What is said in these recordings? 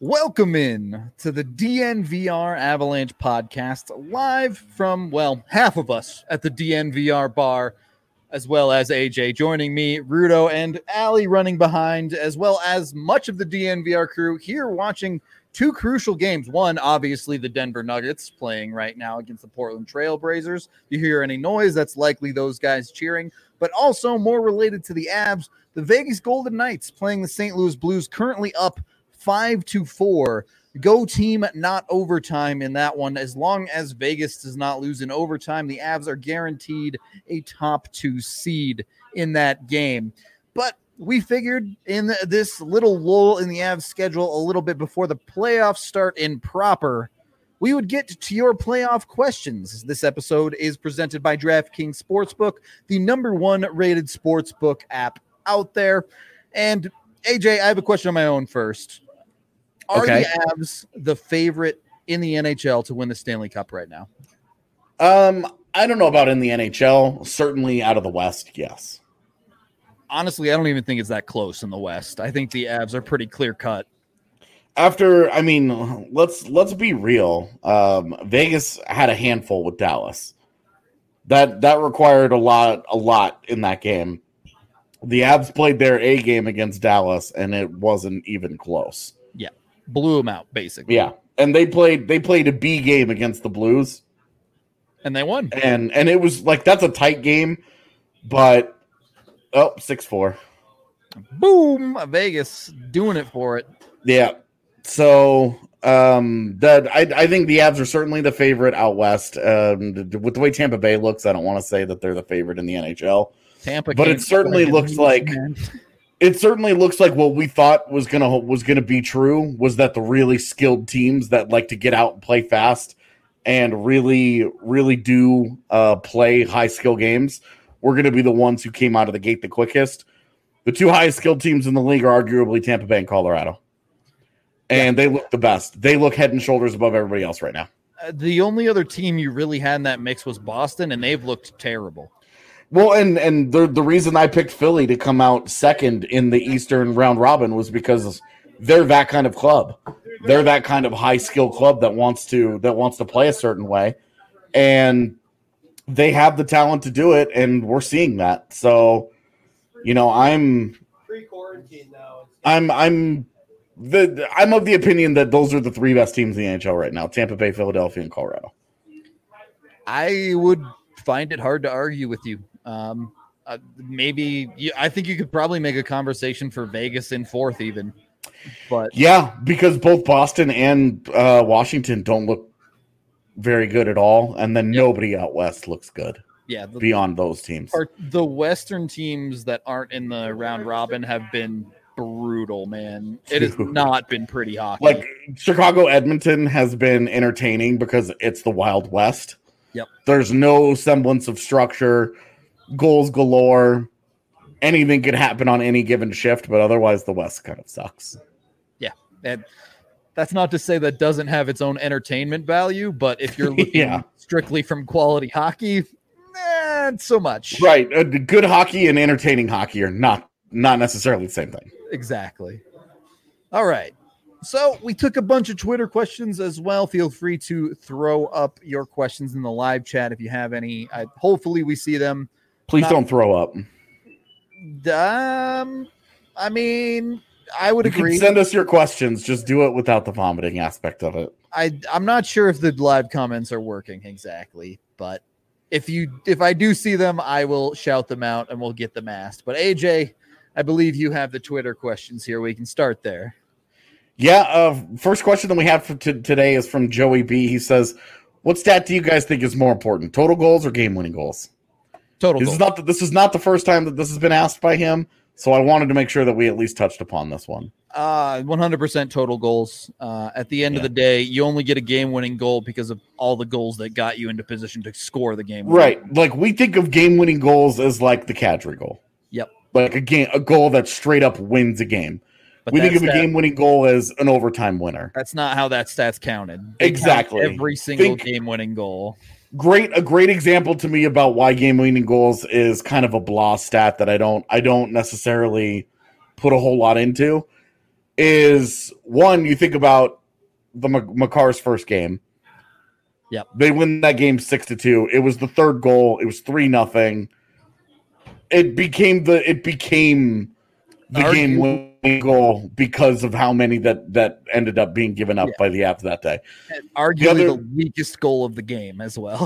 Welcome in to the DNVR Avalanche podcast, live from, half of us at the DNVR bar, as well as AJ joining me, Rudo and Allie running behind, as well as much of the DNVR crew here watching two crucial games. One, obviously, the Denver Nuggets playing right now against the Portland Trail Blazers. You hear any noise, that's likely those guys cheering, but also more related to the Avs, the Vegas Golden Knights playing the St. Louis Blues, currently up 5-4. Go team, not overtime in that one. As long as Vegas does not lose in overtime, the Avs are guaranteed a top 2 seed in that game. But we figured in this little lull in the Avs schedule a little bit before the playoffs start in proper, we would get to your playoff questions. This episode is presented by DraftKings Sportsbook, the #1 rated sportsbook app out there. And AJ, I have a question on my own first. Are the Avs the favorite in the NHL to win the Stanley Cup right now? I don't know about in the NHL. Certainly out of the West, yes. Honestly, I don't even think it's that close in the West. I think the Avs are pretty clear cut. Let's be real. Vegas had a handful with Dallas. That required a lot in that game. The Avs played their A game against Dallas, and it wasn't even close. Yeah, blew them out, basically. Yeah, and they played a B game against the Blues. And they won. And it was like, that's a tight game, but 6-4. Boom! Vegas doing it for it. Yeah. So I think the Avs are certainly the favorite out west. With the way Tampa Bay looks, I don't want to say that they're the favorite in the NHL. Tampa, but it certainly looks like what we thought was gonna be true was that the really skilled teams that like to get out and play fast and really do play high skill games were going to be the ones who came out of the gate the quickest. The two highest skilled teams in the league are arguably Tampa Bay and Colorado, and they look the best. They look head and shoulders above everybody else right now. The only other team you really had in that mix was Boston, and they've looked terrible. Well, and the reason I picked Philly to come out second in the Eastern round robin was because they're that kind of club. They're that kind of high skill club that wants to play a certain way, and they have the talent to do it, and we're seeing that. So, I'm pre-quarantine now. I'm of the opinion that those are the three best teams in the NHL right now: Tampa Bay, Philadelphia, and Colorado. I would find it hard to argue with you. I think you could probably make a conversation for Vegas in fourth even. But yeah, because both Boston and Washington don't look very good at all, and then nobody out west looks good. Yeah, beyond those teams. The Western teams that aren't in the round robin have been brutal, man. It has not been pretty hockey. Like Chicago, Edmonton has been entertaining because it's the Wild West. Yep. There's no semblance of structure, goals galore. Anything could happen on any given shift, but otherwise the West kind of sucks. Yeah. And that's not to say that doesn't have its own entertainment value, but if you're looking strictly from quality hockey, not so much. Right. Good hockey and entertaining hockey are not necessarily the same thing. Exactly. All right. So we took a bunch of Twitter questions as well. Feel free to throw up your questions in the live chat if you have any. Hopefully we see them. Please don't throw up. I mean, I would agree. You can send us your questions. Just do it without the vomiting aspect of it. I'm not sure if the live comments are working exactly, but if I do see them, I will shout them out and we'll get them asked. But AJ, I believe you have the Twitter questions here. We can start there. Yeah. First question that we have for today is from Joey B. He says, "What stat do you guys think is more important, total goals or game-winning goals?" Total goals. This is not the first time that this has been asked by him, so I wanted to make sure that we at least touched upon this one. 100% total goals. At the end of the day, you only get a game-winning goal because of all the goals that got you into position to score the game. Right. Like we think of game-winning goals as like the Kadri goal. Yep. Like a goal that straight up wins a game. But we think of a game-winning goal as an overtime winner. That's not how that stat's counted. Exactly. Every single game-winning goal. A great example to me about why game-winning goals is kind of a blah stat that I don't necessarily put a whole lot into is one, you think about the Makar's first game. Yep. They win that game 6-2. It was the third goal. It was 3-0. It became the game winning goal because of how many that ended up being given up by the Avs that day. And arguably the weakest goal of the game as well.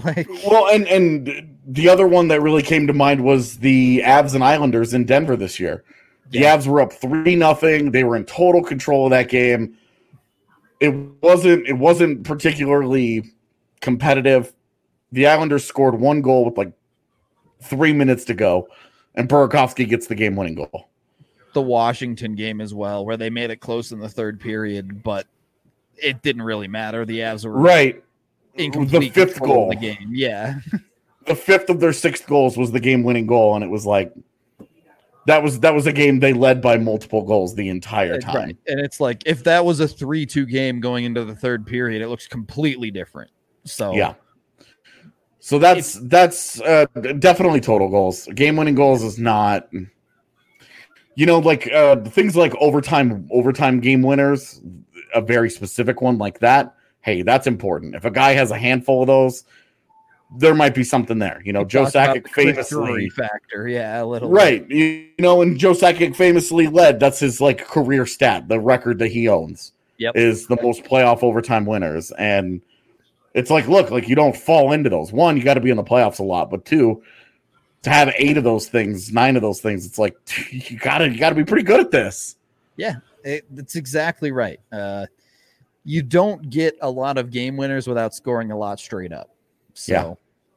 And the other one that really came to mind was the Avs and Islanders in Denver this year. The Avs were up 3-0. They were in total control of that game. It wasn't particularly competitive. The Islanders scored one goal with like 3 minutes to go, and Burakovsky gets the game-winning goal. The Washington game as well, where they made it close in the third period, but it didn't really matter. The Avs were in complete the fifth control goal of the game. Yeah. The fifth of their 6 goals was the game-winning goal, and it was like that was a game they led by multiple goals the entire time. Right. And it's like if that was a 3-2 game going into the third period, it looks completely different. So yeah. So that's definitely total goals. Game-winning goals is not, like things like overtime game winners, a very specific one like that. Hey, that's important. If a guy has a handful of those, there might be something there. Joe Sakic famously factor, a little right. And Joe Sakic famously led. That's his career stat, the record that he owns. Yep. Is the most playoff overtime winners, and it's look, you don't fall into those. One, you got to be in the playoffs a lot, but two, to have 8 of those things, 9 of those things, it's like you gotta be pretty good at this. Yeah, that's exactly right. You don't get a lot of game winners without scoring a lot straight up. So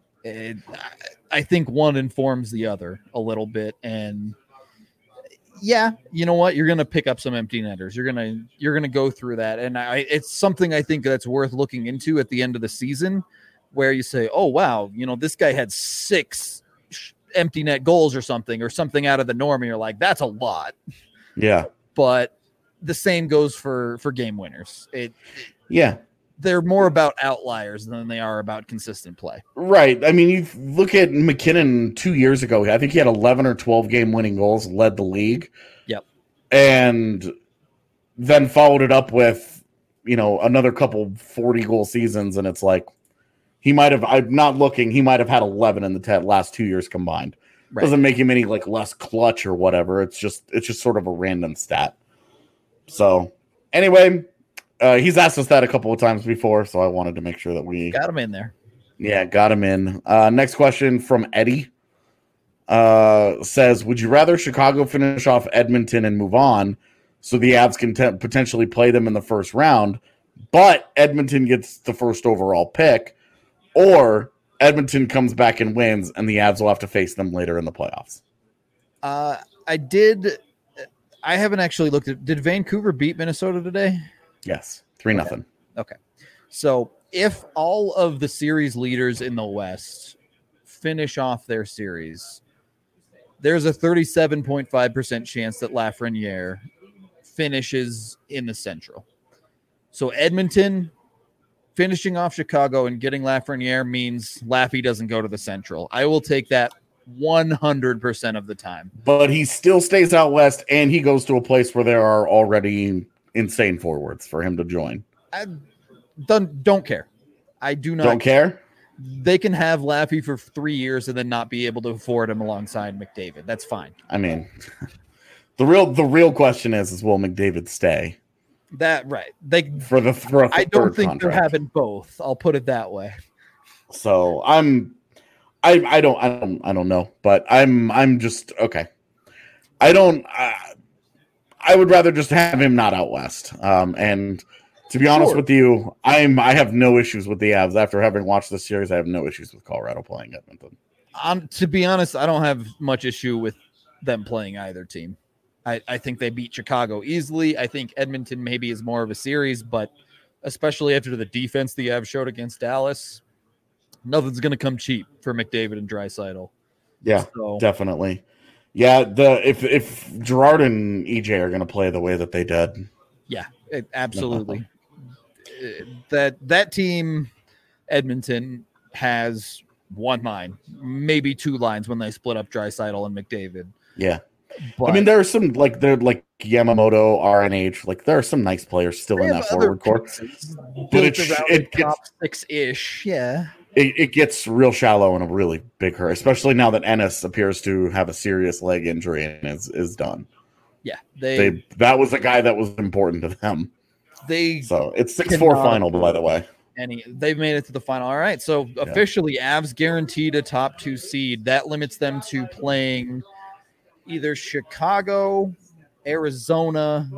I think one informs the other a little bit, and you know what? You're gonna pick up some empty netters. You're gonna go through that, and it's something I think that's worth looking into at the end of the season, where you say, "Oh wow, this guy had 6 empty net goals or something out of the norm," and you're like, "That's a lot." Yeah, but the same goes for game winners. They're more about outliers than they are about consistent play. Right. I mean, you look at McKinnon 2 years ago. I think he had 11 or 12 game-winning goals, led the league. Yep. And then followed it up with, another couple 40-goal seasons, and it's like he might have – I'm not looking – he might have had 11 in the last 2 years combined. Right. Doesn't make him any, less clutch or whatever. It's just sort of a random stat. So, anyway – he's asked us that a couple of times before, so I wanted to make sure that we got him in there. Yeah, got him in. Next question from Eddie says, would you rather Chicago finish off Edmonton and move on so the Avs can potentially play them in the first round, but Edmonton gets the first overall pick, or Edmonton comes back and wins and the Avs will have to face them later in the playoffs? I haven't actually looked at – did Vancouver beat Minnesota today? Yes, 3-0. Okay. So if all of the series leaders in the West finish off their series, there's a 37.5% chance that Lafreniere finishes in the Central. So Edmonton finishing off Chicago and getting Lafreniere means Laffy doesn't go to the Central. I will take that 100% of the time. But he still stays out West, and he goes to a place where there are already insane forwards for him to join. I don't care. I do not. Don't care? They can have Laffy for 3 years and then not be able to afford him alongside McDavid. That's fine. I mean, the real question is will McDavid stay? That right. I don't think they're having both. I'll put it that way. So I don't know, but I'm just okay. I would rather just have him not out West. And to be honest with you, I have no issues with the Avs. After having watched this series, I have no issues with Colorado playing Edmonton. To be honest, I don't have much issue with them playing either team. I think they beat Chicago easily. I think Edmonton maybe is more of a series, but especially after the defense the Avs showed against Dallas, nothing's going to come cheap for McDavid and Draisaitl. Yeah, definitely. Yeah, if Gerard and EJ are going to play the way that they did. Yeah, absolutely. That team, Edmonton, has one line, maybe 2 lines when they split up Draisaitl and McDavid. Yeah. But I mean, there are some they're like Yamamoto, RNH. Like there are some nice players still in that forward core, but it gets top 6-ish. Yeah, it gets real shallow in a really big hurry, especially now that Ennis appears to have a serious leg injury and is done. Yeah, that was a guy that was important to them. So it's 6-4 final, by the way. They've made it to the final. All right, so officially, Avs guaranteed a top 2 seed. That limits them to playing either Chicago, Arizona,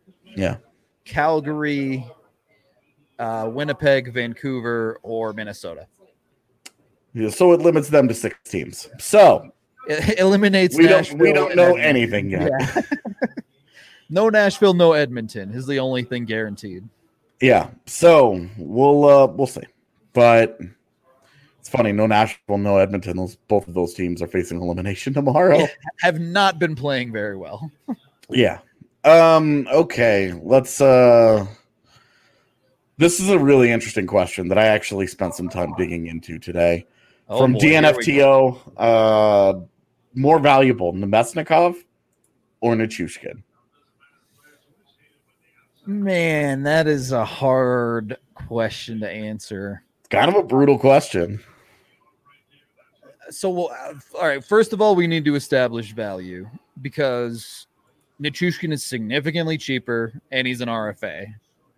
Calgary, Winnipeg, Vancouver, or Minnesota. Yeah, so it limits them to 6 teams. So it eliminates Nashville. We don't know anything yet. Yeah. No Nashville, no Edmonton is the only thing guaranteed. Yeah, so we'll see. But it's funny, no Nashville, no Edmonton. Both of those teams are facing elimination tomorrow. Yeah, have not been playing very well. Yeah. Okay, let's this is a really interesting question that I actually spent some time digging into today. From DNFTO, more valuable, Nemesnikov or Nichushkin? Man, that is a hard question to answer. It's kind of a brutal question. So, all right, first of all, we need to establish value because Nichushkin is significantly cheaper and he's an RFA.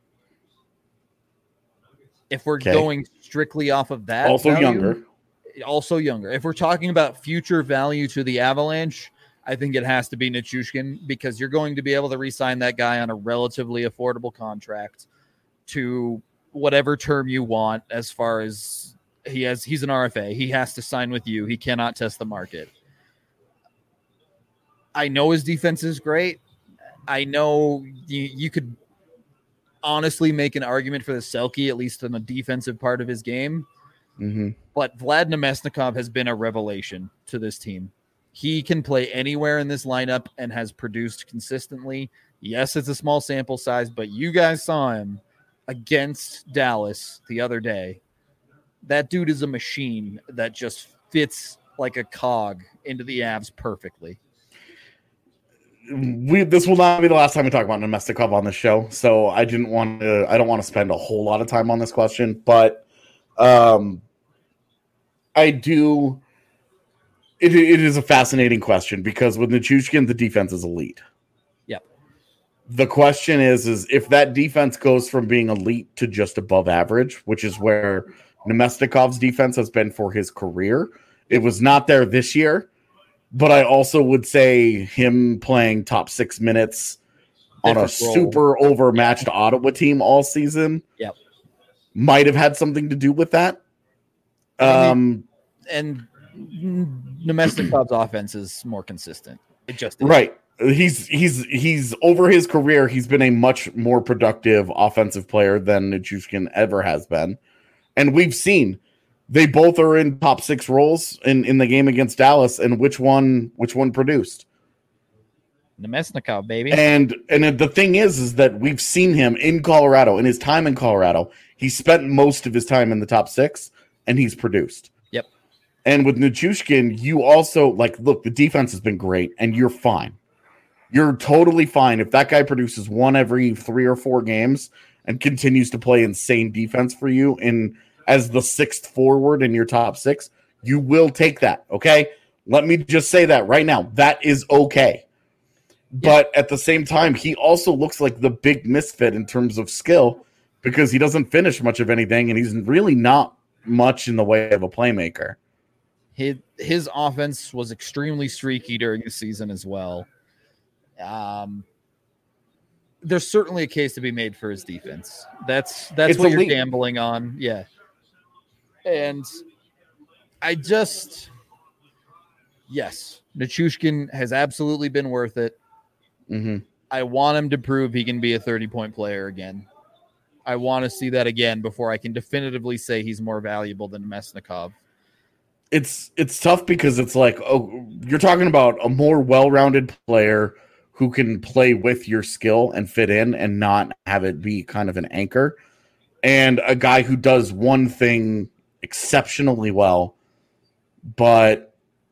If we're going strictly off of that, also younger. If we're talking about future value to the Avalanche, I think it has to be Nichushkin because you're going to be able to re-sign that guy on a relatively affordable contract to whatever term you want. As far as he's an RFA, he has to sign with you. He cannot test the market. I know his defense is great. I know you could honestly make an argument for the Selke, at least in the defensive part of his game. Mm-hmm. But Vlad Nemesnikov has been a revelation to this team. He can play anywhere in this lineup and has produced consistently. Yes, it's a small sample size, but you guys saw him against Dallas the other day. That dude is a machine that just fits like a cog into the Avs perfectly. This will not be the last time we talk about Nemesnikov on the show, so I don't want to spend a whole lot of time on this question, but I do. It is a fascinating question because with Nichushkin, the defense is elite. Yep. The question is if that defense goes from being elite to just above average, which is where Nemesnikov's defense has been for his career. It was not there this year, but I also would say him playing top 6 minutes on a super overmatched Ottawa team all season might have had something to do with that. And Nemesnikov's offense is more consistent. It just is. Right. He's over his career. He's been a much more productive offensive player than Nichushkin ever has been, and we've seen they both are in top 6 roles in the game against Dallas. And which one produced? Nemesnikov, baby. And the thing is that we've seen him in Colorado. In his time in Colorado, he spent most of his time in the top 6, and he's produced. And with Nichushkin, you also look, the defense has been great and you're fine. You're totally fine. If that guy produces one every 3 or 4 games and continues to play insane defense for you as the 6th forward in your top 6, you will take that. Okay. Let me just say that right now. That is okay. But at the same time, he also looks like the big misfit in terms of skill because he doesn't finish much of anything and he's really not much in the way of a playmaker. His offense was extremely streaky during the season as well. There's certainly a case to be made for his defense. That's what elite. You're gambling on. Yeah. And yes, Nichushkin has absolutely been worth it. Mm-hmm. I want him to prove he can be a 30-point player again. I want to see that again before I can definitively say he's more valuable than Nemesnikov. It's tough because it's you're talking about a more well-rounded player who can play with your skill and fit in and not have it be kind of an anchor, and a guy who does one thing exceptionally well, but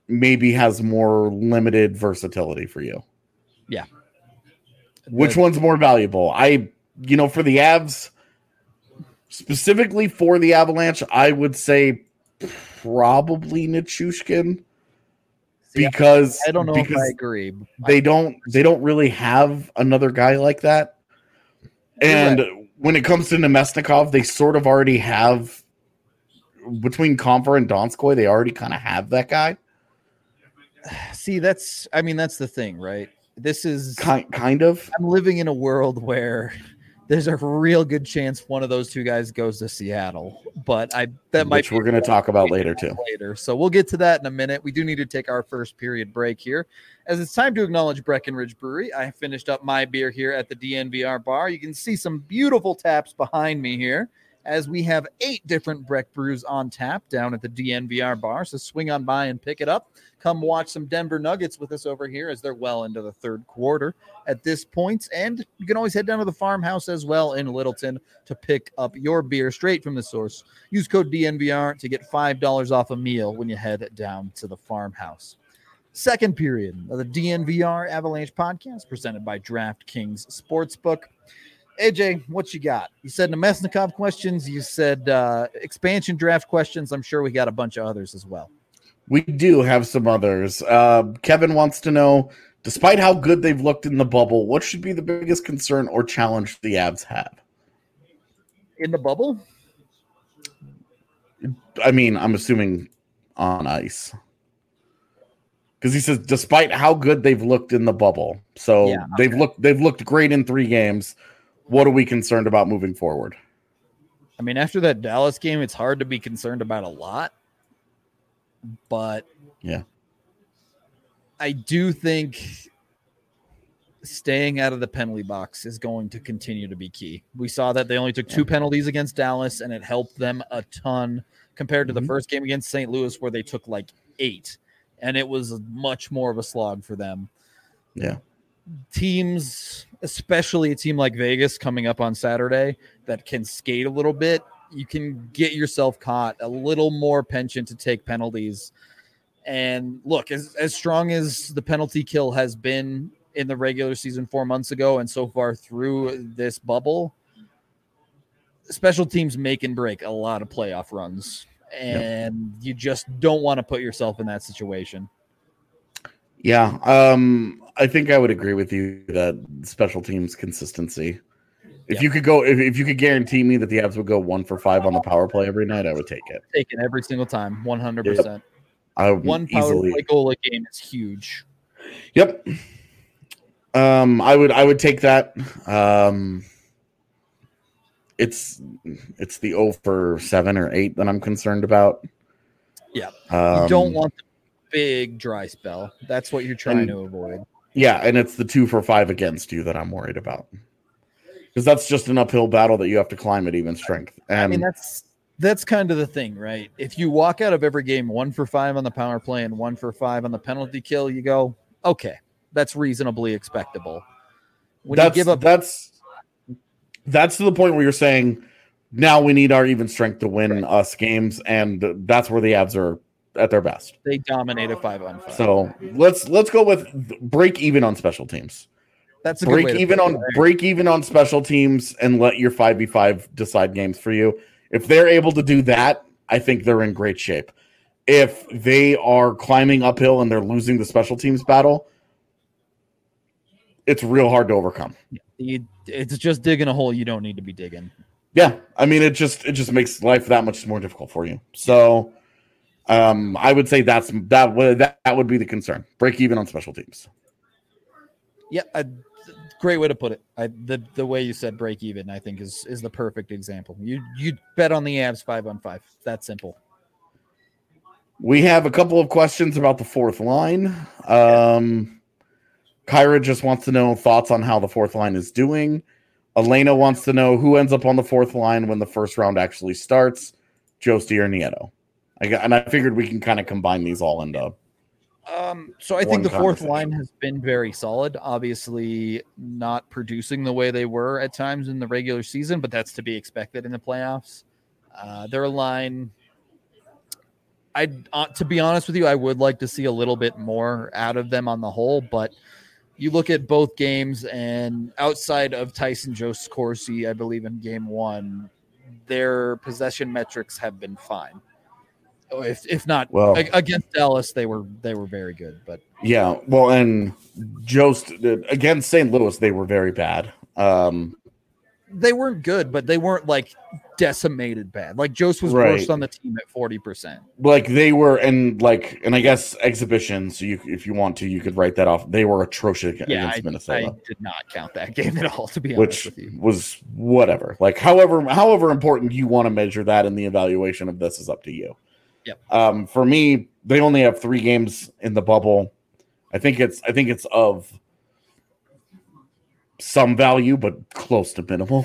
maybe has more limited versatility for you? Yeah. Which one's more valuable? For the Avs, specifically for the Avalanche, I would say probably Nichushkin. Because I don't know if I agree. They don't really have another guy like that. And when it comes to Nemesnikov, they sort of already have, between Comfer and Donskoy, they already kind of have that guy. See, that's the thing, right? This is kind of. I'm living in a world where there's a real good chance one of those two guys goes to Seattle, but which we're going to talk about later too. So we'll get to that in a minute. We do need to take our first period break here, as it's time to acknowledge Breckenridge Brewery. I finished up my beer here at the DNVR bar. You can see some beautiful taps behind me here, as we have 8 different Breck brews on tap down at the DNVR bar. So swing on by and pick it up. Come watch some Denver Nuggets with us over here, as they're well into the third quarter at this point. And you can always head down to the farmhouse as well in Littleton to pick up your beer straight from the source. Use code DNVR to get $5 off a meal when you head down to the farmhouse. Second period of the DNVR Avalanche podcast, presented by DraftKings Sportsbook. AJ, what you got? You said Nemesnikov questions. You said expansion draft questions. I'm sure we got a bunch of others as well. We do have some others. Kevin wants to know, despite how good they've looked in the bubble, what should be the biggest concern or challenge the Avs have? In the bubble? I mean, I'm assuming on ice. Because he says, despite how good they've looked in the bubble. So yeah, okay. They've looked great in 3 games. What are we concerned about moving forward? I mean, after that Dallas game, it's hard to be concerned about a lot. But yeah, I do think staying out of the penalty box is going to continue to be key. We saw that they only took 2 penalties against Dallas, and it helped them a ton compared to the first game against St. Louis, where they took like 8, and it was much more of a slog for them. Yeah. Teams, especially a team like Vegas coming up on Saturday that can skate a little bit, you can get yourself caught a little more penchant to take penalties. And look, as strong as the penalty kill has been in the regular season 4 months ago and so far through this bubble, special teams make and break a lot of playoff runs. And you just don't want to put yourself in that situation. Yeah, I think I would agree with you that special teams consistency. If you could go, if you could guarantee me that the Avs would go 1 for 5 on the power play every night, I would take it. Take it every single time, 100%. Yep. One power play goal a game is huge. Yep. I would take that. It's the 0 for 7 or 8 that I'm concerned about. Yeah, you don't want the big dry spell. That's what you're trying to avoid. Yeah, and it's the 2 for 5 against you that I'm worried about. Because that's just an uphill battle that you have to climb at even strength. And I mean, that's kind of the thing, right? If you walk out of every game 1 for 5 on the power play and 1 for 5 on the penalty kill, you go, okay, that's reasonably expectable. When you give up, that's to the point where you're saying, now we need our even strength to win us games, and that's where the Avs are at their best. They dominate a 5-on-5. So let's go with break even on special teams. That's a break even on special teams and let your 5v5 decide games for you. If they're able to do that, I think they're in great shape. If they are climbing uphill and they're losing the special teams battle, it's real hard to overcome. It's just digging a hole you don't need to be digging. Yeah, I mean, it just makes life that much more difficult for you. So I would say that would be the concern. Break even on special teams. Yeah, great way to put it. The way you said break even, I think, is the perfect example. You bet on the Avs 5-on-5. That simple. We have a couple of questions about the fourth line. Kyra just wants to know thoughts on how the fourth line is doing. Elena wants to know who ends up on the fourth line when the first round actually starts, Josti or Nieto. I figured we can kind of combine these all into. So I think the fourth line has been very solid. Obviously, not producing the way they were at times in the regular season, but that's to be expected in the playoffs. Their line, to be honest with you, I would like to see a little bit more out of them on the whole, but you look at both games, and outside of Tyson Jost Corsi, I believe in game one, their possession metrics have been fine. If not, against Dallas, they were very good. But yeah, well, and Jost against St. Louis, they were very bad. They weren't good, but they weren't like decimated bad. Like Jost was worst on the team at 40%. Like they were, and I guess exhibitions. So if you want to, you could write that off. They were atrocious against Minnesota. I did not count that game at all, to be honest with you. Which was whatever. Like however important you want to measure that in the evaluation of this is up to you. Yep. For me, they only have 3 games in the bubble. I think it's of some value, but close to minimal.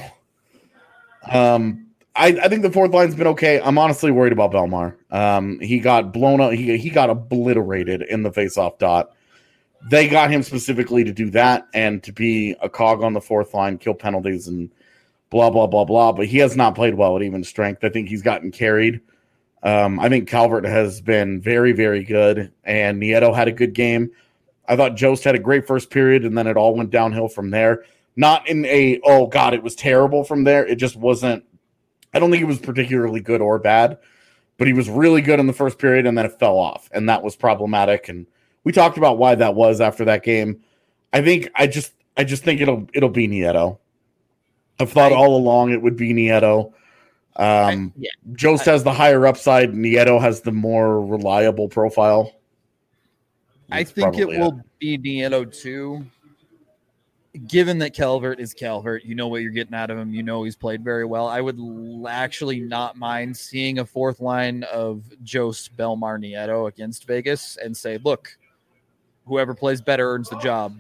I think the fourth line's been okay. I'm honestly worried about Belmar. He got blown up. He got obliterated in the faceoff dot. They got him specifically to do that and to be a cog on the fourth line, kill penalties, and blah blah blah blah. But he has not played well at even strength. I think he's gotten carried. I think Calvert has been very, very good, and Nieto had a good game. I thought Jost had a great first period, and then it all went downhill from there. Not in a, oh, God, it was terrible from there. It just wasn't. I don't think it was particularly good or bad, but he was really good in the first period, and then it fell off, and that was problematic. And we talked about why that was after that game. I just think it'll be Nieto. I've thought all along it would be Nieto. Jost has the higher upside. Nieto has the more reliable profile. I think it will be Nieto too. Given that Calvert is Calvert, you know what you're getting out of him. You know he's played very well. I would actually not mind seeing a fourth line of Jost, Belmar, Nieto against Vegas and say, look, whoever plays better earns the job.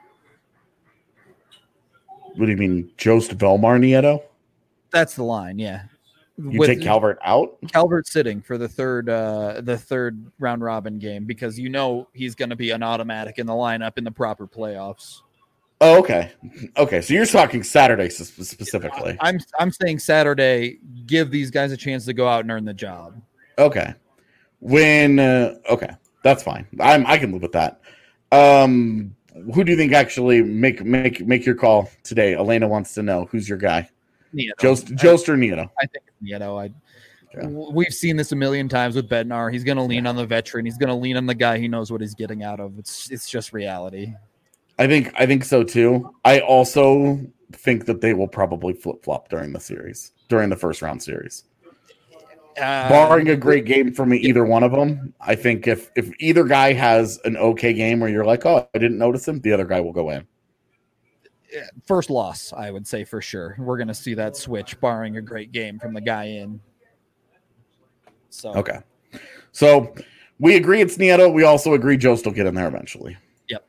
What do you mean, Jost, Belmar, Nieto? That's the line, yeah. You take Calvert out? Calvert sitting for the third round robin game because you know he's going to be an automatic in the lineup in the proper playoffs. Oh, okay. Okay, so you're talking Saturday specifically. I'm saying Saturday, give these guys a chance to go out and earn the job. Okay. Okay, that's fine. I can live with that. Who do you think actually make your call today? Elena wants to know who's your guy. Nieto. Jost or Nieto? I think it's Nieto. We've seen this a million times with Bednar. He's going to lean on the veteran. He's going to lean on the guy he knows what he's getting out of. It's just reality. I think so too. I also think that they will probably flip-flop during the first round series. Barring a great game from either one of them, I think if either guy has an okay game where you're like, oh, I didn't notice him, the other guy will go in. First loss, I would say for sure. We're going to see that switch, barring a great game from the guy in. So okay, so we agree it's Nieto. We also agree Jost will get in there eventually. Yep.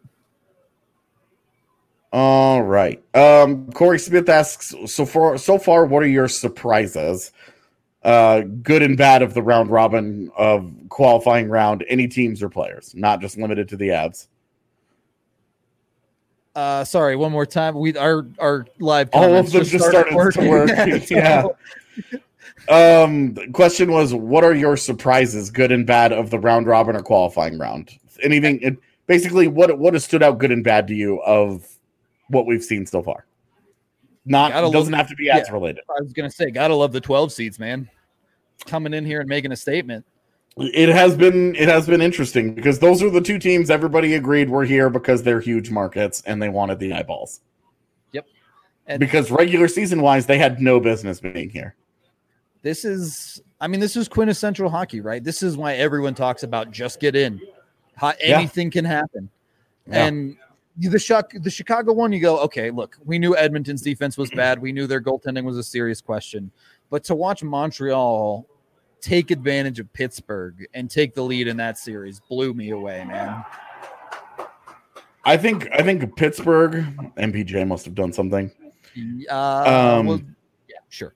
All right. Corey Smith asks, so far, what are your surprises? Good and bad of the round robin of qualifying round, any teams or players, not just limited to the Avs. Sorry, one more time. Our live all of them just started to work. Yeah. The question was, what are your surprises, good and bad, of the round robin or qualifying round? Anything? Basically, what has stood out good and bad to you of what we've seen so far? It doesn't have to be Avs related. I was gonna say, gotta love the 12 seeds, man. Coming in here and making a statement. It has been interesting because those are the two teams everybody agreed were here because they're huge markets and they wanted the eyeballs. Yep. And because regular season wise, they had no business being here. This is quintessential hockey, right? This is why everyone talks about just get in. Anything can happen. Yeah. And the Chicago one, you go, okay, look, we knew Edmonton's defense was bad. We knew their goaltending was a serious question. But to watch Montreal take advantage of Pittsburgh and take the lead in that series blew me away, man. I think Pittsburgh, MPJ must have done something. Sure.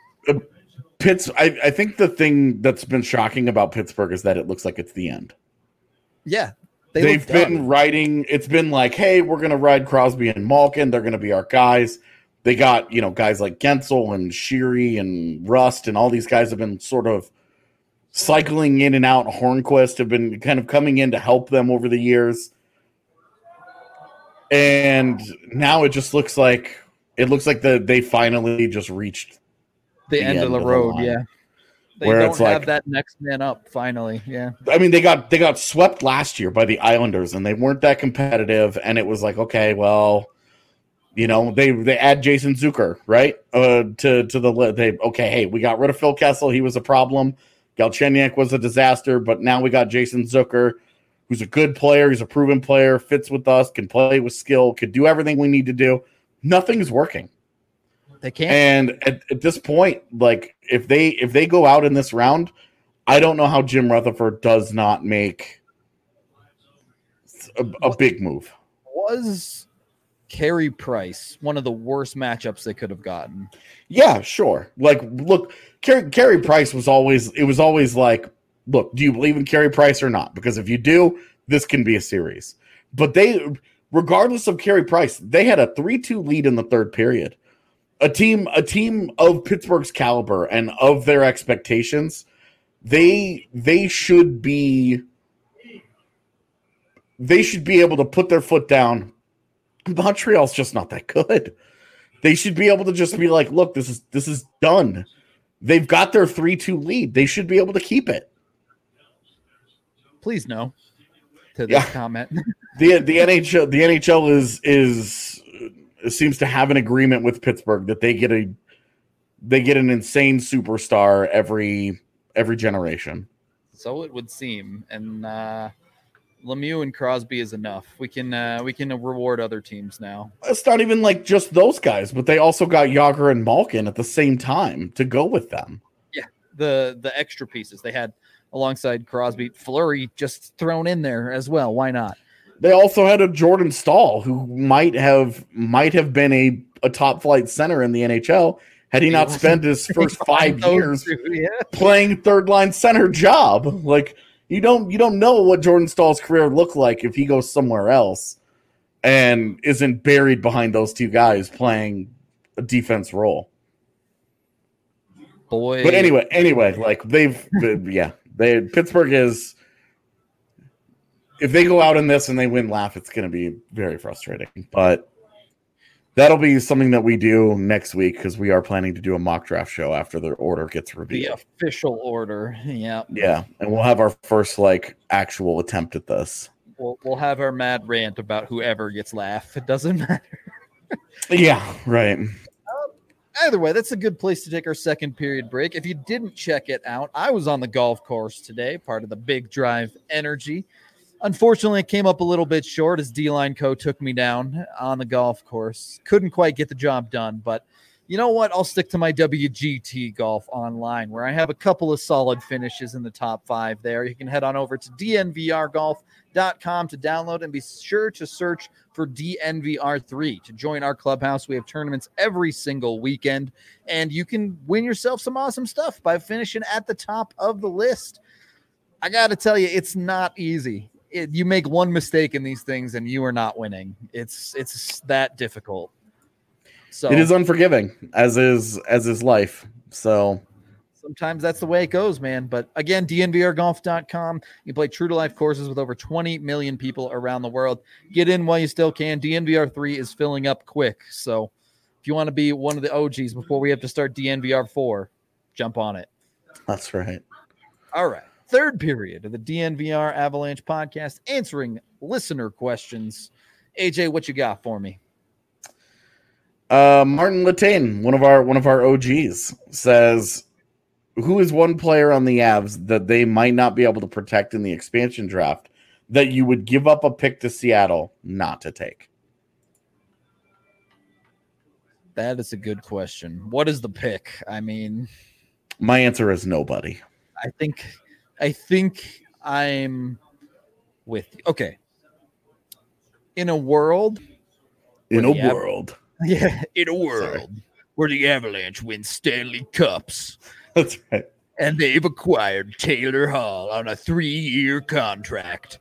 I think the thing that's been shocking about Pittsburgh is that it looks like it's the end. Yeah. They've been riding. It's been like, hey, we're going to ride Crosby and Malkin. They're going to be our guys. They got, guys like Gensel and Sheary and Rust and all these guys have been sort of cycling in and out. Hornquist have been kind of coming in to help them over the years. And now it just looks like they finally just reached the end of the road. line. Yeah. They Where don't it's have like, that next man up finally. Yeah. I mean, they got swept last year by the Islanders, and they weren't that competitive. And it was like, okay, well, they add Jason Zucker, right? Hey, we got rid of Phil Kessel. He was a problem. Galchenyuk was a disaster, but now we got Jason Zucker, who's a good player. He's a proven player, fits with us, can play with skill, could do everything we need to do. Nothing's working. They can't. And at this point, like if they go out in this round, I don't know how Jim Rutherford does not make a big move. Was Carey Price one of the worst matchups they could have gotten? Yeah, sure. Like, look, Carey Price was always like, look, do you believe in Carey Price or not? Because if you do, this can be a series. But regardless of Carey Price, they had a 3-2 lead in the third period. A team of Pittsburgh's caliber and of their expectations, they should be able to put their foot down. Montreal's just not that good. They should be able to just be like, look, this is done. They've got their 3-2 lead. They should be able to keep it. Please no to this comment. The NHL is seems to have an agreement with Pittsburgh that they get an insane superstar every generation. So it would seem, and Lemieux and Crosby is enough. We can reward other teams now. It's not even like just those guys, but they also got Yager and Malkin at the same time to go with them. Yeah, the extra pieces they had alongside Crosby, Fleury just thrown in there as well. Why not? They also had a Jordan Staal who might have been a top flight center in the NHL had he not spent his first 5 years playing third line center job. Like you don't know what Jordan Staal's career looked like if he goes somewhere else and isn't buried behind those two guys playing a defense role. Boy, but anyway, like Pittsburgh is. If they go out in this and they win laugh, it's going to be very frustrating. But that'll be something that we do next week because we are planning to do a mock draft show after the order gets revealed. The official order, yeah. Yeah, and we'll have our first actual attempt at this. We'll have our mad rant about whoever gets laugh. It doesn't matter. Yeah, right. Either way, that's a good place to take our second period break. If you didn't check it out, I was on the golf course today, part of the Big Drive Energy. Unfortunately, it came up a little bit short as D-Line Co. took me down on the golf course. Couldn't quite get the job done, but you know what? I'll stick to my WGT Golf Online, where I have a couple of solid finishes in the top 5 there. You can head on over to dnvrgolf.com to download and be sure to search for DNVR3 to join our clubhouse. We have tournaments every single weekend, and you can win yourself some awesome stuff by finishing at the top of the list. I got to tell you, it's not easy. You make one mistake in these things and you are not winning. It's that difficult. So it is unforgiving, as is life. So sometimes that's the way it goes, man. But again, dnvrgolf.com. You play true to life courses with over 20 million people around the world. Get in while you still can. DNVR3 is filling up quick. So if you want to be one of the OGs before we have to start DNVR4, jump on it. That's right. All right. Third period of the DNVR Avalanche podcast, answering listener questions. AJ, what you got for me? Martin Latane, one of our OGs, says, who is one player on the Avs that they might not be able to protect in the expansion draft that you would give up a pick to Seattle not to take? That is a good question. What is the pick? I mean, my answer is nobody. I think I'm with you. Okay. In a world. Yeah, in a world where the Avalanche win Stanley Cups. That's right. And they've acquired Taylor Hall on a 3-year contract.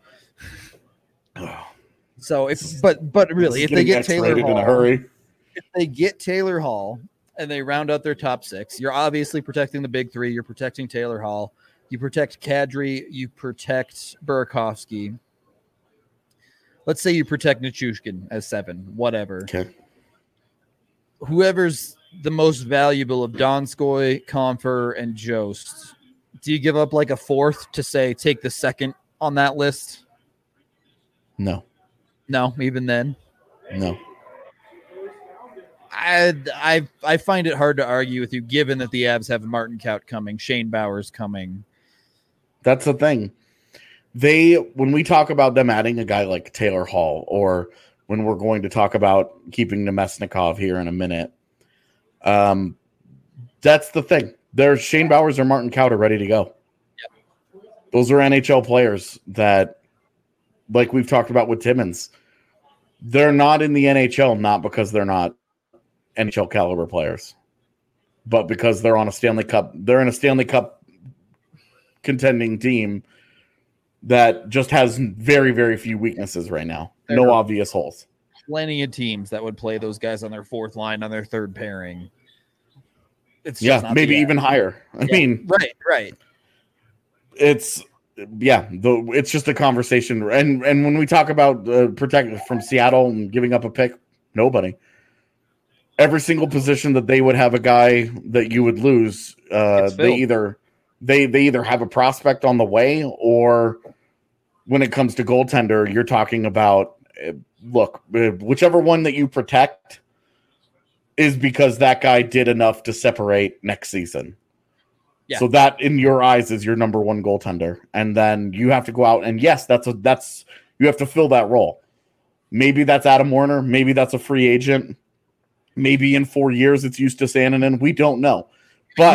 So but really, if they get Taylor Hall in a hurry, if they get Taylor Hall and they round out their top 6, you're obviously protecting the big 3. You're protecting Taylor Hall. You protect Kadri. You protect Burakovsky. Let's say you protect Nichushkin as 7, whatever. Okay. Whoever's the most valuable of Donskoy, Comfer, and Jost, do you give up like a 4th to say take the 2nd on that list? No. No, even then? No. I find it hard to argue with you, given that the Avs have Martin Kaut coming, Shane Bowers coming. That's the thing. When we talk about them adding a guy like Taylor Hall, or when we're going to talk about keeping Nemesnikov here in a minute, that's the thing. There's Shane Bowers or Martin Kaut are ready to go. Yep. Those are NHL players that, like we've talked about with Timmins, they're not in the NHL not because they're not NHL caliber players, but because they're on a Stanley Cup. They're in a Stanley Cup contending team that just has very, very few weaknesses right now. No obvious holes. Plenty of teams that would play those guys on their 4th line, on their 3rd pairing. It's just not maybe even higher. I mean, right. It's it's just a conversation. And when we talk about protecting from Seattle and giving up a pick, nobody. Every single position that they would have a guy that you would lose, they either have a prospect on the way, or when it comes to goaltender, you're talking about whichever one that you protect is because that guy did enough to separate next season. Yeah. So that in your eyes is your number 1 goaltender. And then you have to go out and yes, you have to fill that role. Maybe that's Adam Warner. Maybe that's a free agent. Maybe in 4 years it's Justus Annunen. We don't know. But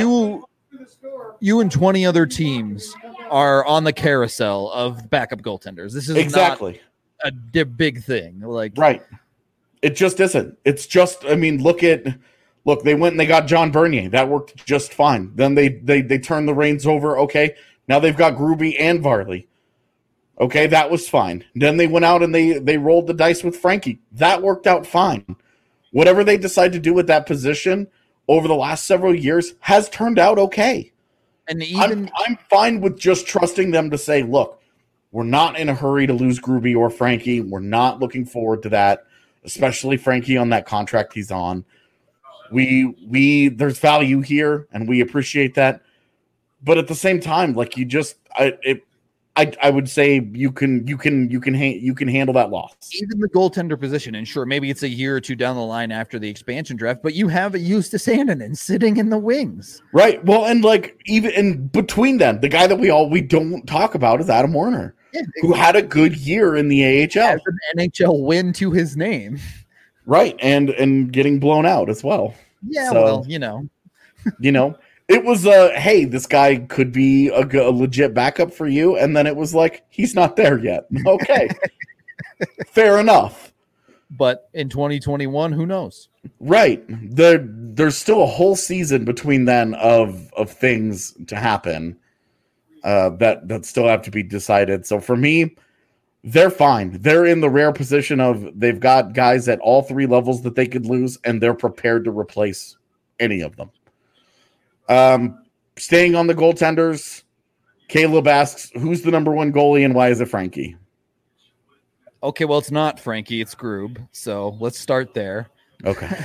you and 20 other teams are on the carousel of backup goaltenders. This is exactly not a big thing. Right. It just isn't. It's just, I mean, look, they went and they got John Bernier. That worked just fine. Then they turned the reins over. Okay. Now they've got Gruby and Varley. Okay. That was fine. Then they went out and they rolled the dice with Frankie. That worked out fine. Whatever they decide to do with that position over the last several years has turned out okay. And I'm fine with just trusting them to say, look, we're not in a hurry to lose Gruby or Frankie. We're not looking forward to that, especially Frankie on that contract he's on. There's value here, and we appreciate that. But at the same time, like I would say you can handle that loss. Even the goaltender position, and sure, maybe it's a year or two down the line after the expansion draft, but you have a Justus Annunen sitting in the wings, right? Well, and like even in between them, the guy that we don't talk about is Adam Warner, who had a good year in the AHL, has an NHL win to his name, right? And getting blown out as well. Yeah, so, well, It was hey, this guy could be a legit backup for you, and then it was like he's not there yet. Okay, fair enough. But in 2021, who knows? Right. There's still a whole season between then of things to happen that still have to be decided. So for me, they're fine. They're in the rare position of they've got guys at all 3 levels that they could lose, and they're prepared to replace any of them. Staying on the goaltenders, Caleb asks, who's the number 1 goalie and why is it Frankie? Okay, well, it's not Frankie, it's Grub. So let's start there. Okay.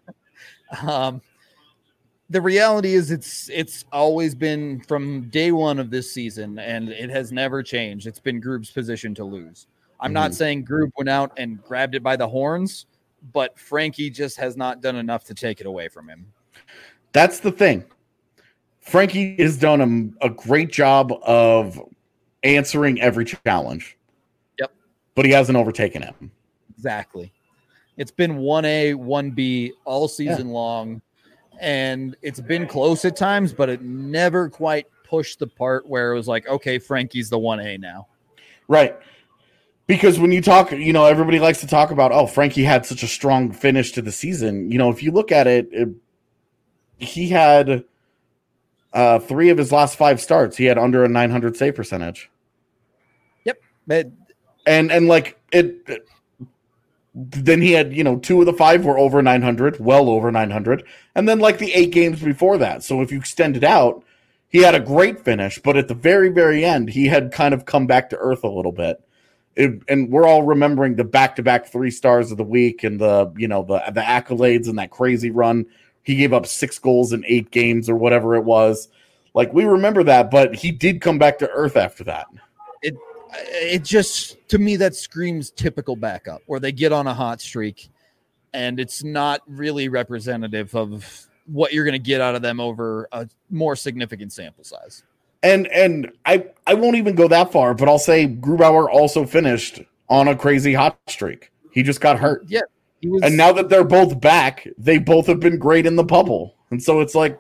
The reality is it's always been from day one of this season, and it has never changed. It's been Grub's position to lose. I'm not saying Grub went out and grabbed it by the horns, but Frankie just has not done enough to take it away from him. That's the thing. Frankie has done a great job of answering every challenge. Yep. But he hasn't overtaken it. Exactly. It's been 1A, 1B all season long, and it's been close at times, but it never quite pushed the part where it was like, okay, Frankie's the 1A now. Right. Because when you talk, everybody likes to talk about, oh, Frankie had such a strong finish to the season. If you look at it, he had 3 of his last 5 starts. He had under a 900 save percentage. Yep. And like it then he had, 2 of the 5 were over 900, well over 900. And then like the 8 games before that. So if you extend it out, he had a great finish, but at the very, very end, he had kind of come back to earth a little bit. And we're all remembering the back-to-back 3 stars of the week and the accolades and that crazy run. He gave up 6 goals in 8 games or whatever it was. Like, we remember that, but he did come back to earth after that. It just, to me, that screams typical backup, where they get on a hot streak and it's not really representative of what you're going to get out of them over a more significant sample size. And I won't even go that far, but I'll say Grubauer also finished on a crazy hot streak. He just got hurt. Yeah. And now that they're both back, they both have been great in the bubble. And so it's like,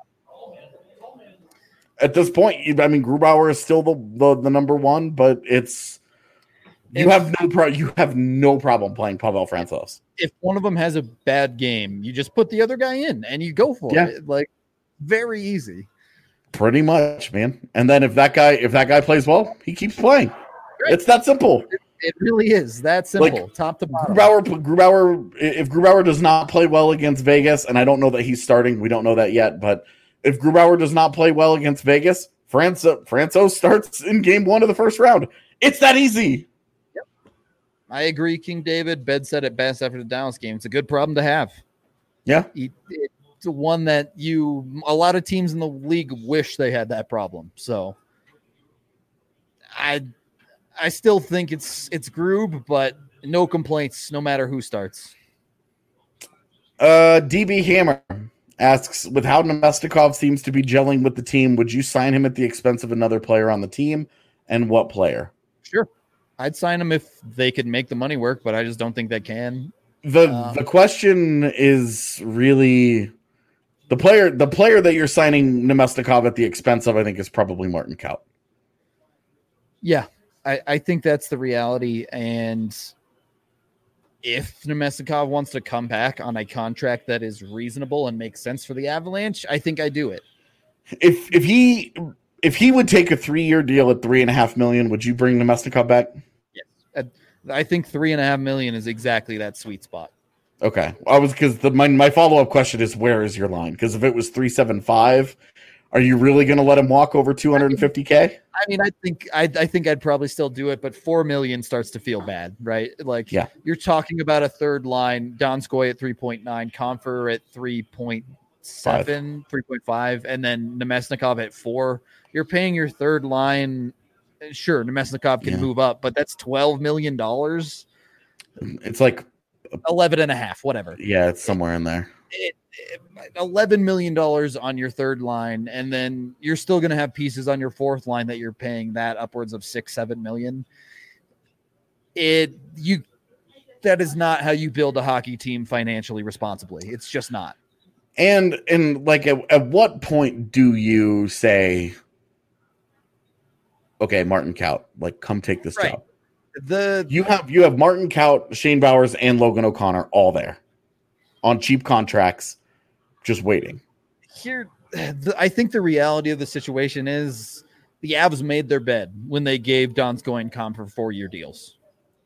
at this point, I mean, Grubauer is still the number one, but you have no problem playing Pavel Francouz. If one of them has a bad game, you just put the other guy in and you go for it. Like, very easy. Pretty much, man. And then if that guy plays well, he keeps playing. Right. It's that simple. It really is that simple, top to bottom. Grubauer, if Grubauer does not play well against Vegas, and I don't know that he's starting, we don't know that yet, but if Grubauer does not play well against Vegas, Francouz starts in game 1 of the first round. It's that easy. Yep. I agree, King David. Bed said it best after the Dallas game. It's a good problem to have. Yeah. It's one that a lot of teams in the league wish they had that problem. So I still think it's Grub, but no complaints, no matter who starts. DB Hammer asks, with how Nemestikov seems to be gelling with the team, would you sign him at the expense of another player on the team, and what player? Sure. I'd sign him if they could make the money work, but I just don't think they can. The question is really the player that you're signing Nemestikov at the expense of, I think, is probably Martin Kaut. Yeah, I think that's the reality. And if Nemestikov wants to come back on a contract that is reasonable and makes sense for the Avalanche, I think I do it. If he would take a 3-year deal at $3.5 million, would you bring Nemestikov back? Yes, I think $3.5 million is exactly that sweet spot. Okay, because my follow-up question is, where is your line? Because if it was 3.75, are you really going to let him walk over $250K? I mean, I think I'd probably still do it, but $4 million starts to feel bad, right? Like, yeah. You're talking about a third line, Donskoy at 3.9, Compher at 3.7, 3.5, and then Nemesnikov at 4. You're paying your third line. Sure, Nemesnikov can move up, but that's $12 million. It's like 11.5, whatever. Yeah, it's somewhere in there. $11 million on your third line, and then you're still going to have pieces on your fourth line that you're paying that upwards of $6-7 million. That is not how you build a hockey team financially responsibly. It's just not. And like at what point do you say, okay, Martin Kaut, like, come take this job? You have Martin Kaut, Shane Bowers, and Logan O'Connor all there on cheap contracts, just waiting. I think the reality of the situation is the Avs made their bed when they gave Donskoy and Compher 4-year deals.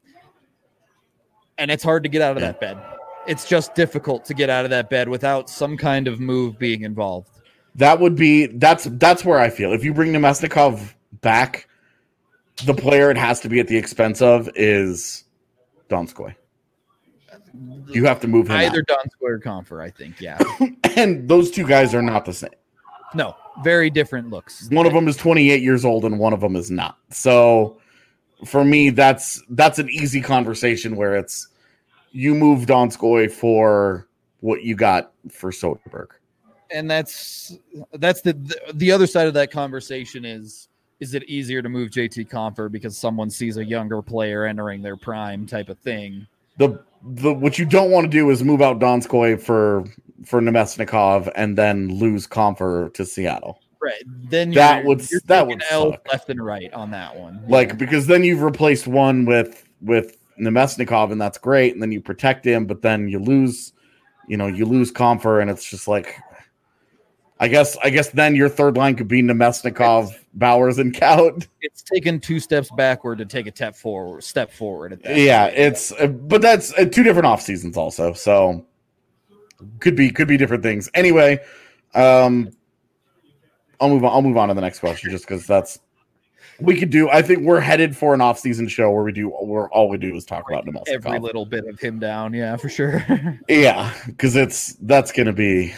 And it's hard to get out of that bed. It's just difficult to get out of that bed without some kind of move being involved. That's where I feel. If you bring Nemesnikov back, the player it has to be at the expense of is Donskoy. You have to move him either Donskoy or Compher, I think, yeah. And those two guys are not the same. No, very different looks. One of them is 28 years old and one of them is not. So for me, that's an easy conversation where it's you move Donskoy for what you got for Soderberg. And that's the other side of that conversation is it easier to move JT Compher because someone sees a younger player entering their prime type of thing? What you don't want to do is move out Donskoy for Nemesnikov and then lose Compher to Seattle. Right. Then that would suck. Left and right on that one. Like, because then you've replaced one with Nemesnikov, and that's great, and then you protect him, but then you lose Compher, and it's just like, I guess then your third line could be Nemesnikov, Bowers, and Kaut. It's taken 2 steps backward to take a step forward at that. Yeah, but that's 2 different off seasons also, so could be different things. Anyway, I'll move on to the next question just because that's we could do. I think we're headed for an off-season show where all we do is talk about Nemesikov. Every little bit of him down, yeah, for sure. Yeah, because that's going to be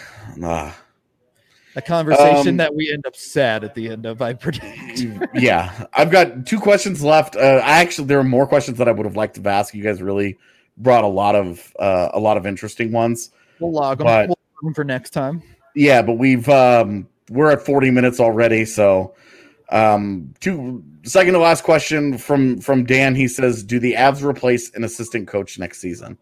a conversation that we end up sad at the end of, I predict. Yeah, I've got 2 questions left. There are more questions that I would have liked to ask. You guys really brought a lot of interesting ones. We'll log them for next time. Yeah, but we're at 40 minutes already, so second to last question from Dan. He says, do the Avs replace an assistant coach next season?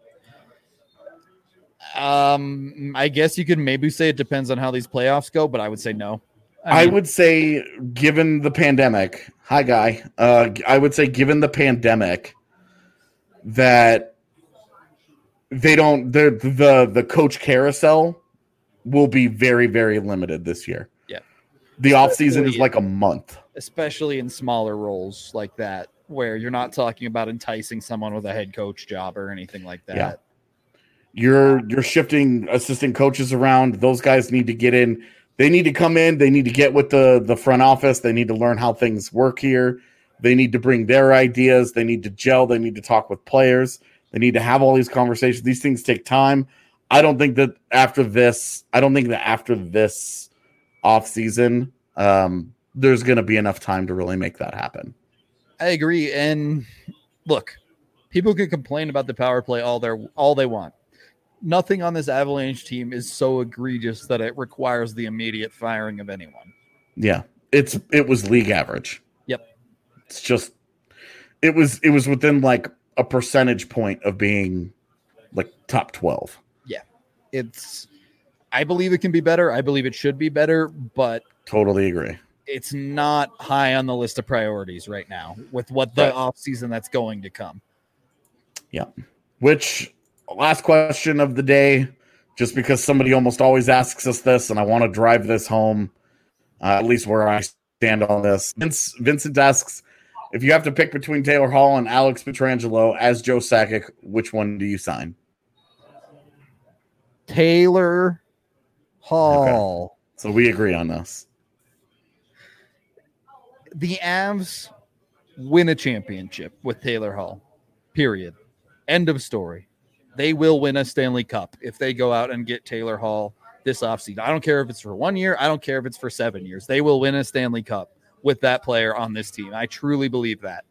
I guess you could maybe say it depends on how these playoffs go, but I would say no. I would say given the pandemic, I would say given the pandemic that they don't the coach carousel will be very, very limited this year. Yeah. The offseason is like a month. Especially in smaller roles like that, where you're not talking about enticing someone with a head coach job or anything like that. Yeah. You're shifting assistant coaches around. Those guys need to get in. They need to come in. They need to get with the front office. They need to learn how things work here. They need to bring their ideas. They need to gel. They need to talk with players. They need to have all these conversations. These things take time. I don't think that after this off season, there's going to be enough time to really make that happen. I agree. And look, people can complain about the power play all they want. Nothing on this Avalanche team is so egregious that it requires the immediate firing of anyone. Yeah, it was league average. Yep. It's just it was within like a percentage point of being like top 12. Yeah. I believe it can be better. I believe it should be better, but totally agree. It's not high on the list of priorities right now with what the offseason that's going to come. Yeah. Which last question of the day, just because somebody almost always asks us this, and I want to drive this home, at least where I stand on this. Vincent asks, if you have to pick between Taylor Hall and Alex Pietrangelo as Joe Sakic, which one do you sign? Taylor Hall. Okay. So we agree on this. The Avs win a championship with Taylor Hall. Period. End of story. They will win a Stanley Cup if they go out and get Taylor Hall this offseason. I don't care if it's for 1 year. I don't care if it's for 7 years. They will win a Stanley Cup with that player on this team. I truly believe that.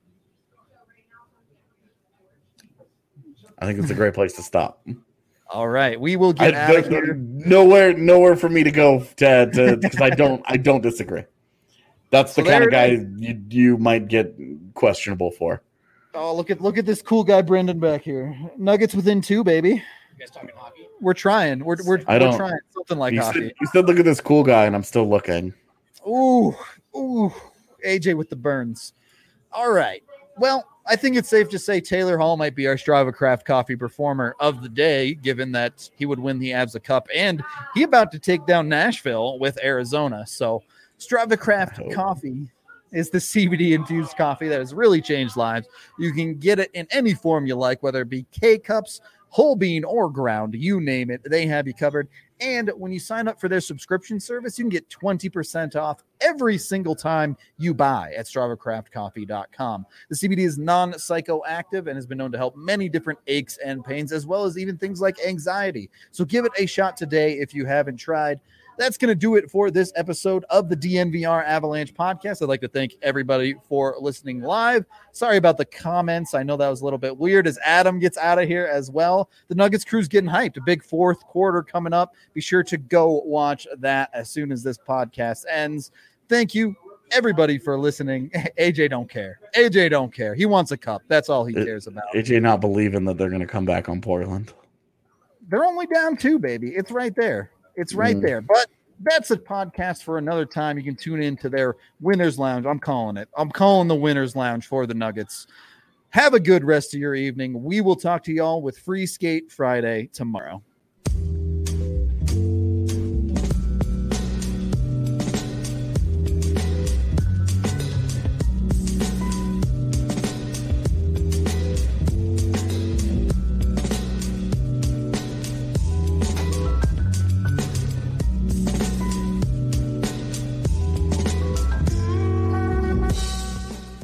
I think it's a great place to stop. All right. We will get out of here. Nowhere for me to go to because I don't disagree. That's the kind of guy you might get questionable for. Oh, look at this cool guy, Brendan, back here. Nuggets within 2, baby. You guys talking hockey? We're trying. We're trying something like hockey. You said, look at this cool guy, and I'm still looking. Ooh, AJ with the burns. All right. Well, I think it's safe to say Taylor Hall might be our Strava Craft Coffee performer of the day, given that he would win the Avs a cup, and he about to take down Nashville with Arizona. So Strava Craft Coffee is the CBD-infused coffee that has really changed lives. You can get it in any form you like, whether it be K-Cups, whole bean, or ground. You name it, they have you covered. And when you sign up for their subscription service, you can get 20% off every single time you buy at StravaCraftCoffee.com. The CBD is non-psychoactive and has been known to help many different aches and pains, as well as even things like anxiety. So give it a shot today if you haven't tried. That's going to do it for this episode of the DNVR Avalanche podcast. I'd like to thank everybody for listening live. Sorry about the comments. I know that was a little bit weird as Adam gets out of here as well. The Nuggets crew's getting hyped. A big fourth quarter coming up. Be sure to go watch that as soon as this podcast ends. Thank you, everybody, for listening. AJ don't care. AJ don't care. He wants a cup. That's all he cares about. AJ not believing that they're going to come back on Portland. They're only down 2, baby. It's right there. It's right there. But that's a podcast for another time. You can tune in to their Winners Lounge. I'm calling it. I'm calling the Winners Lounge for the Nuggets. Have a good rest of your evening. We will talk to y'all with Free Skate Friday tomorrow.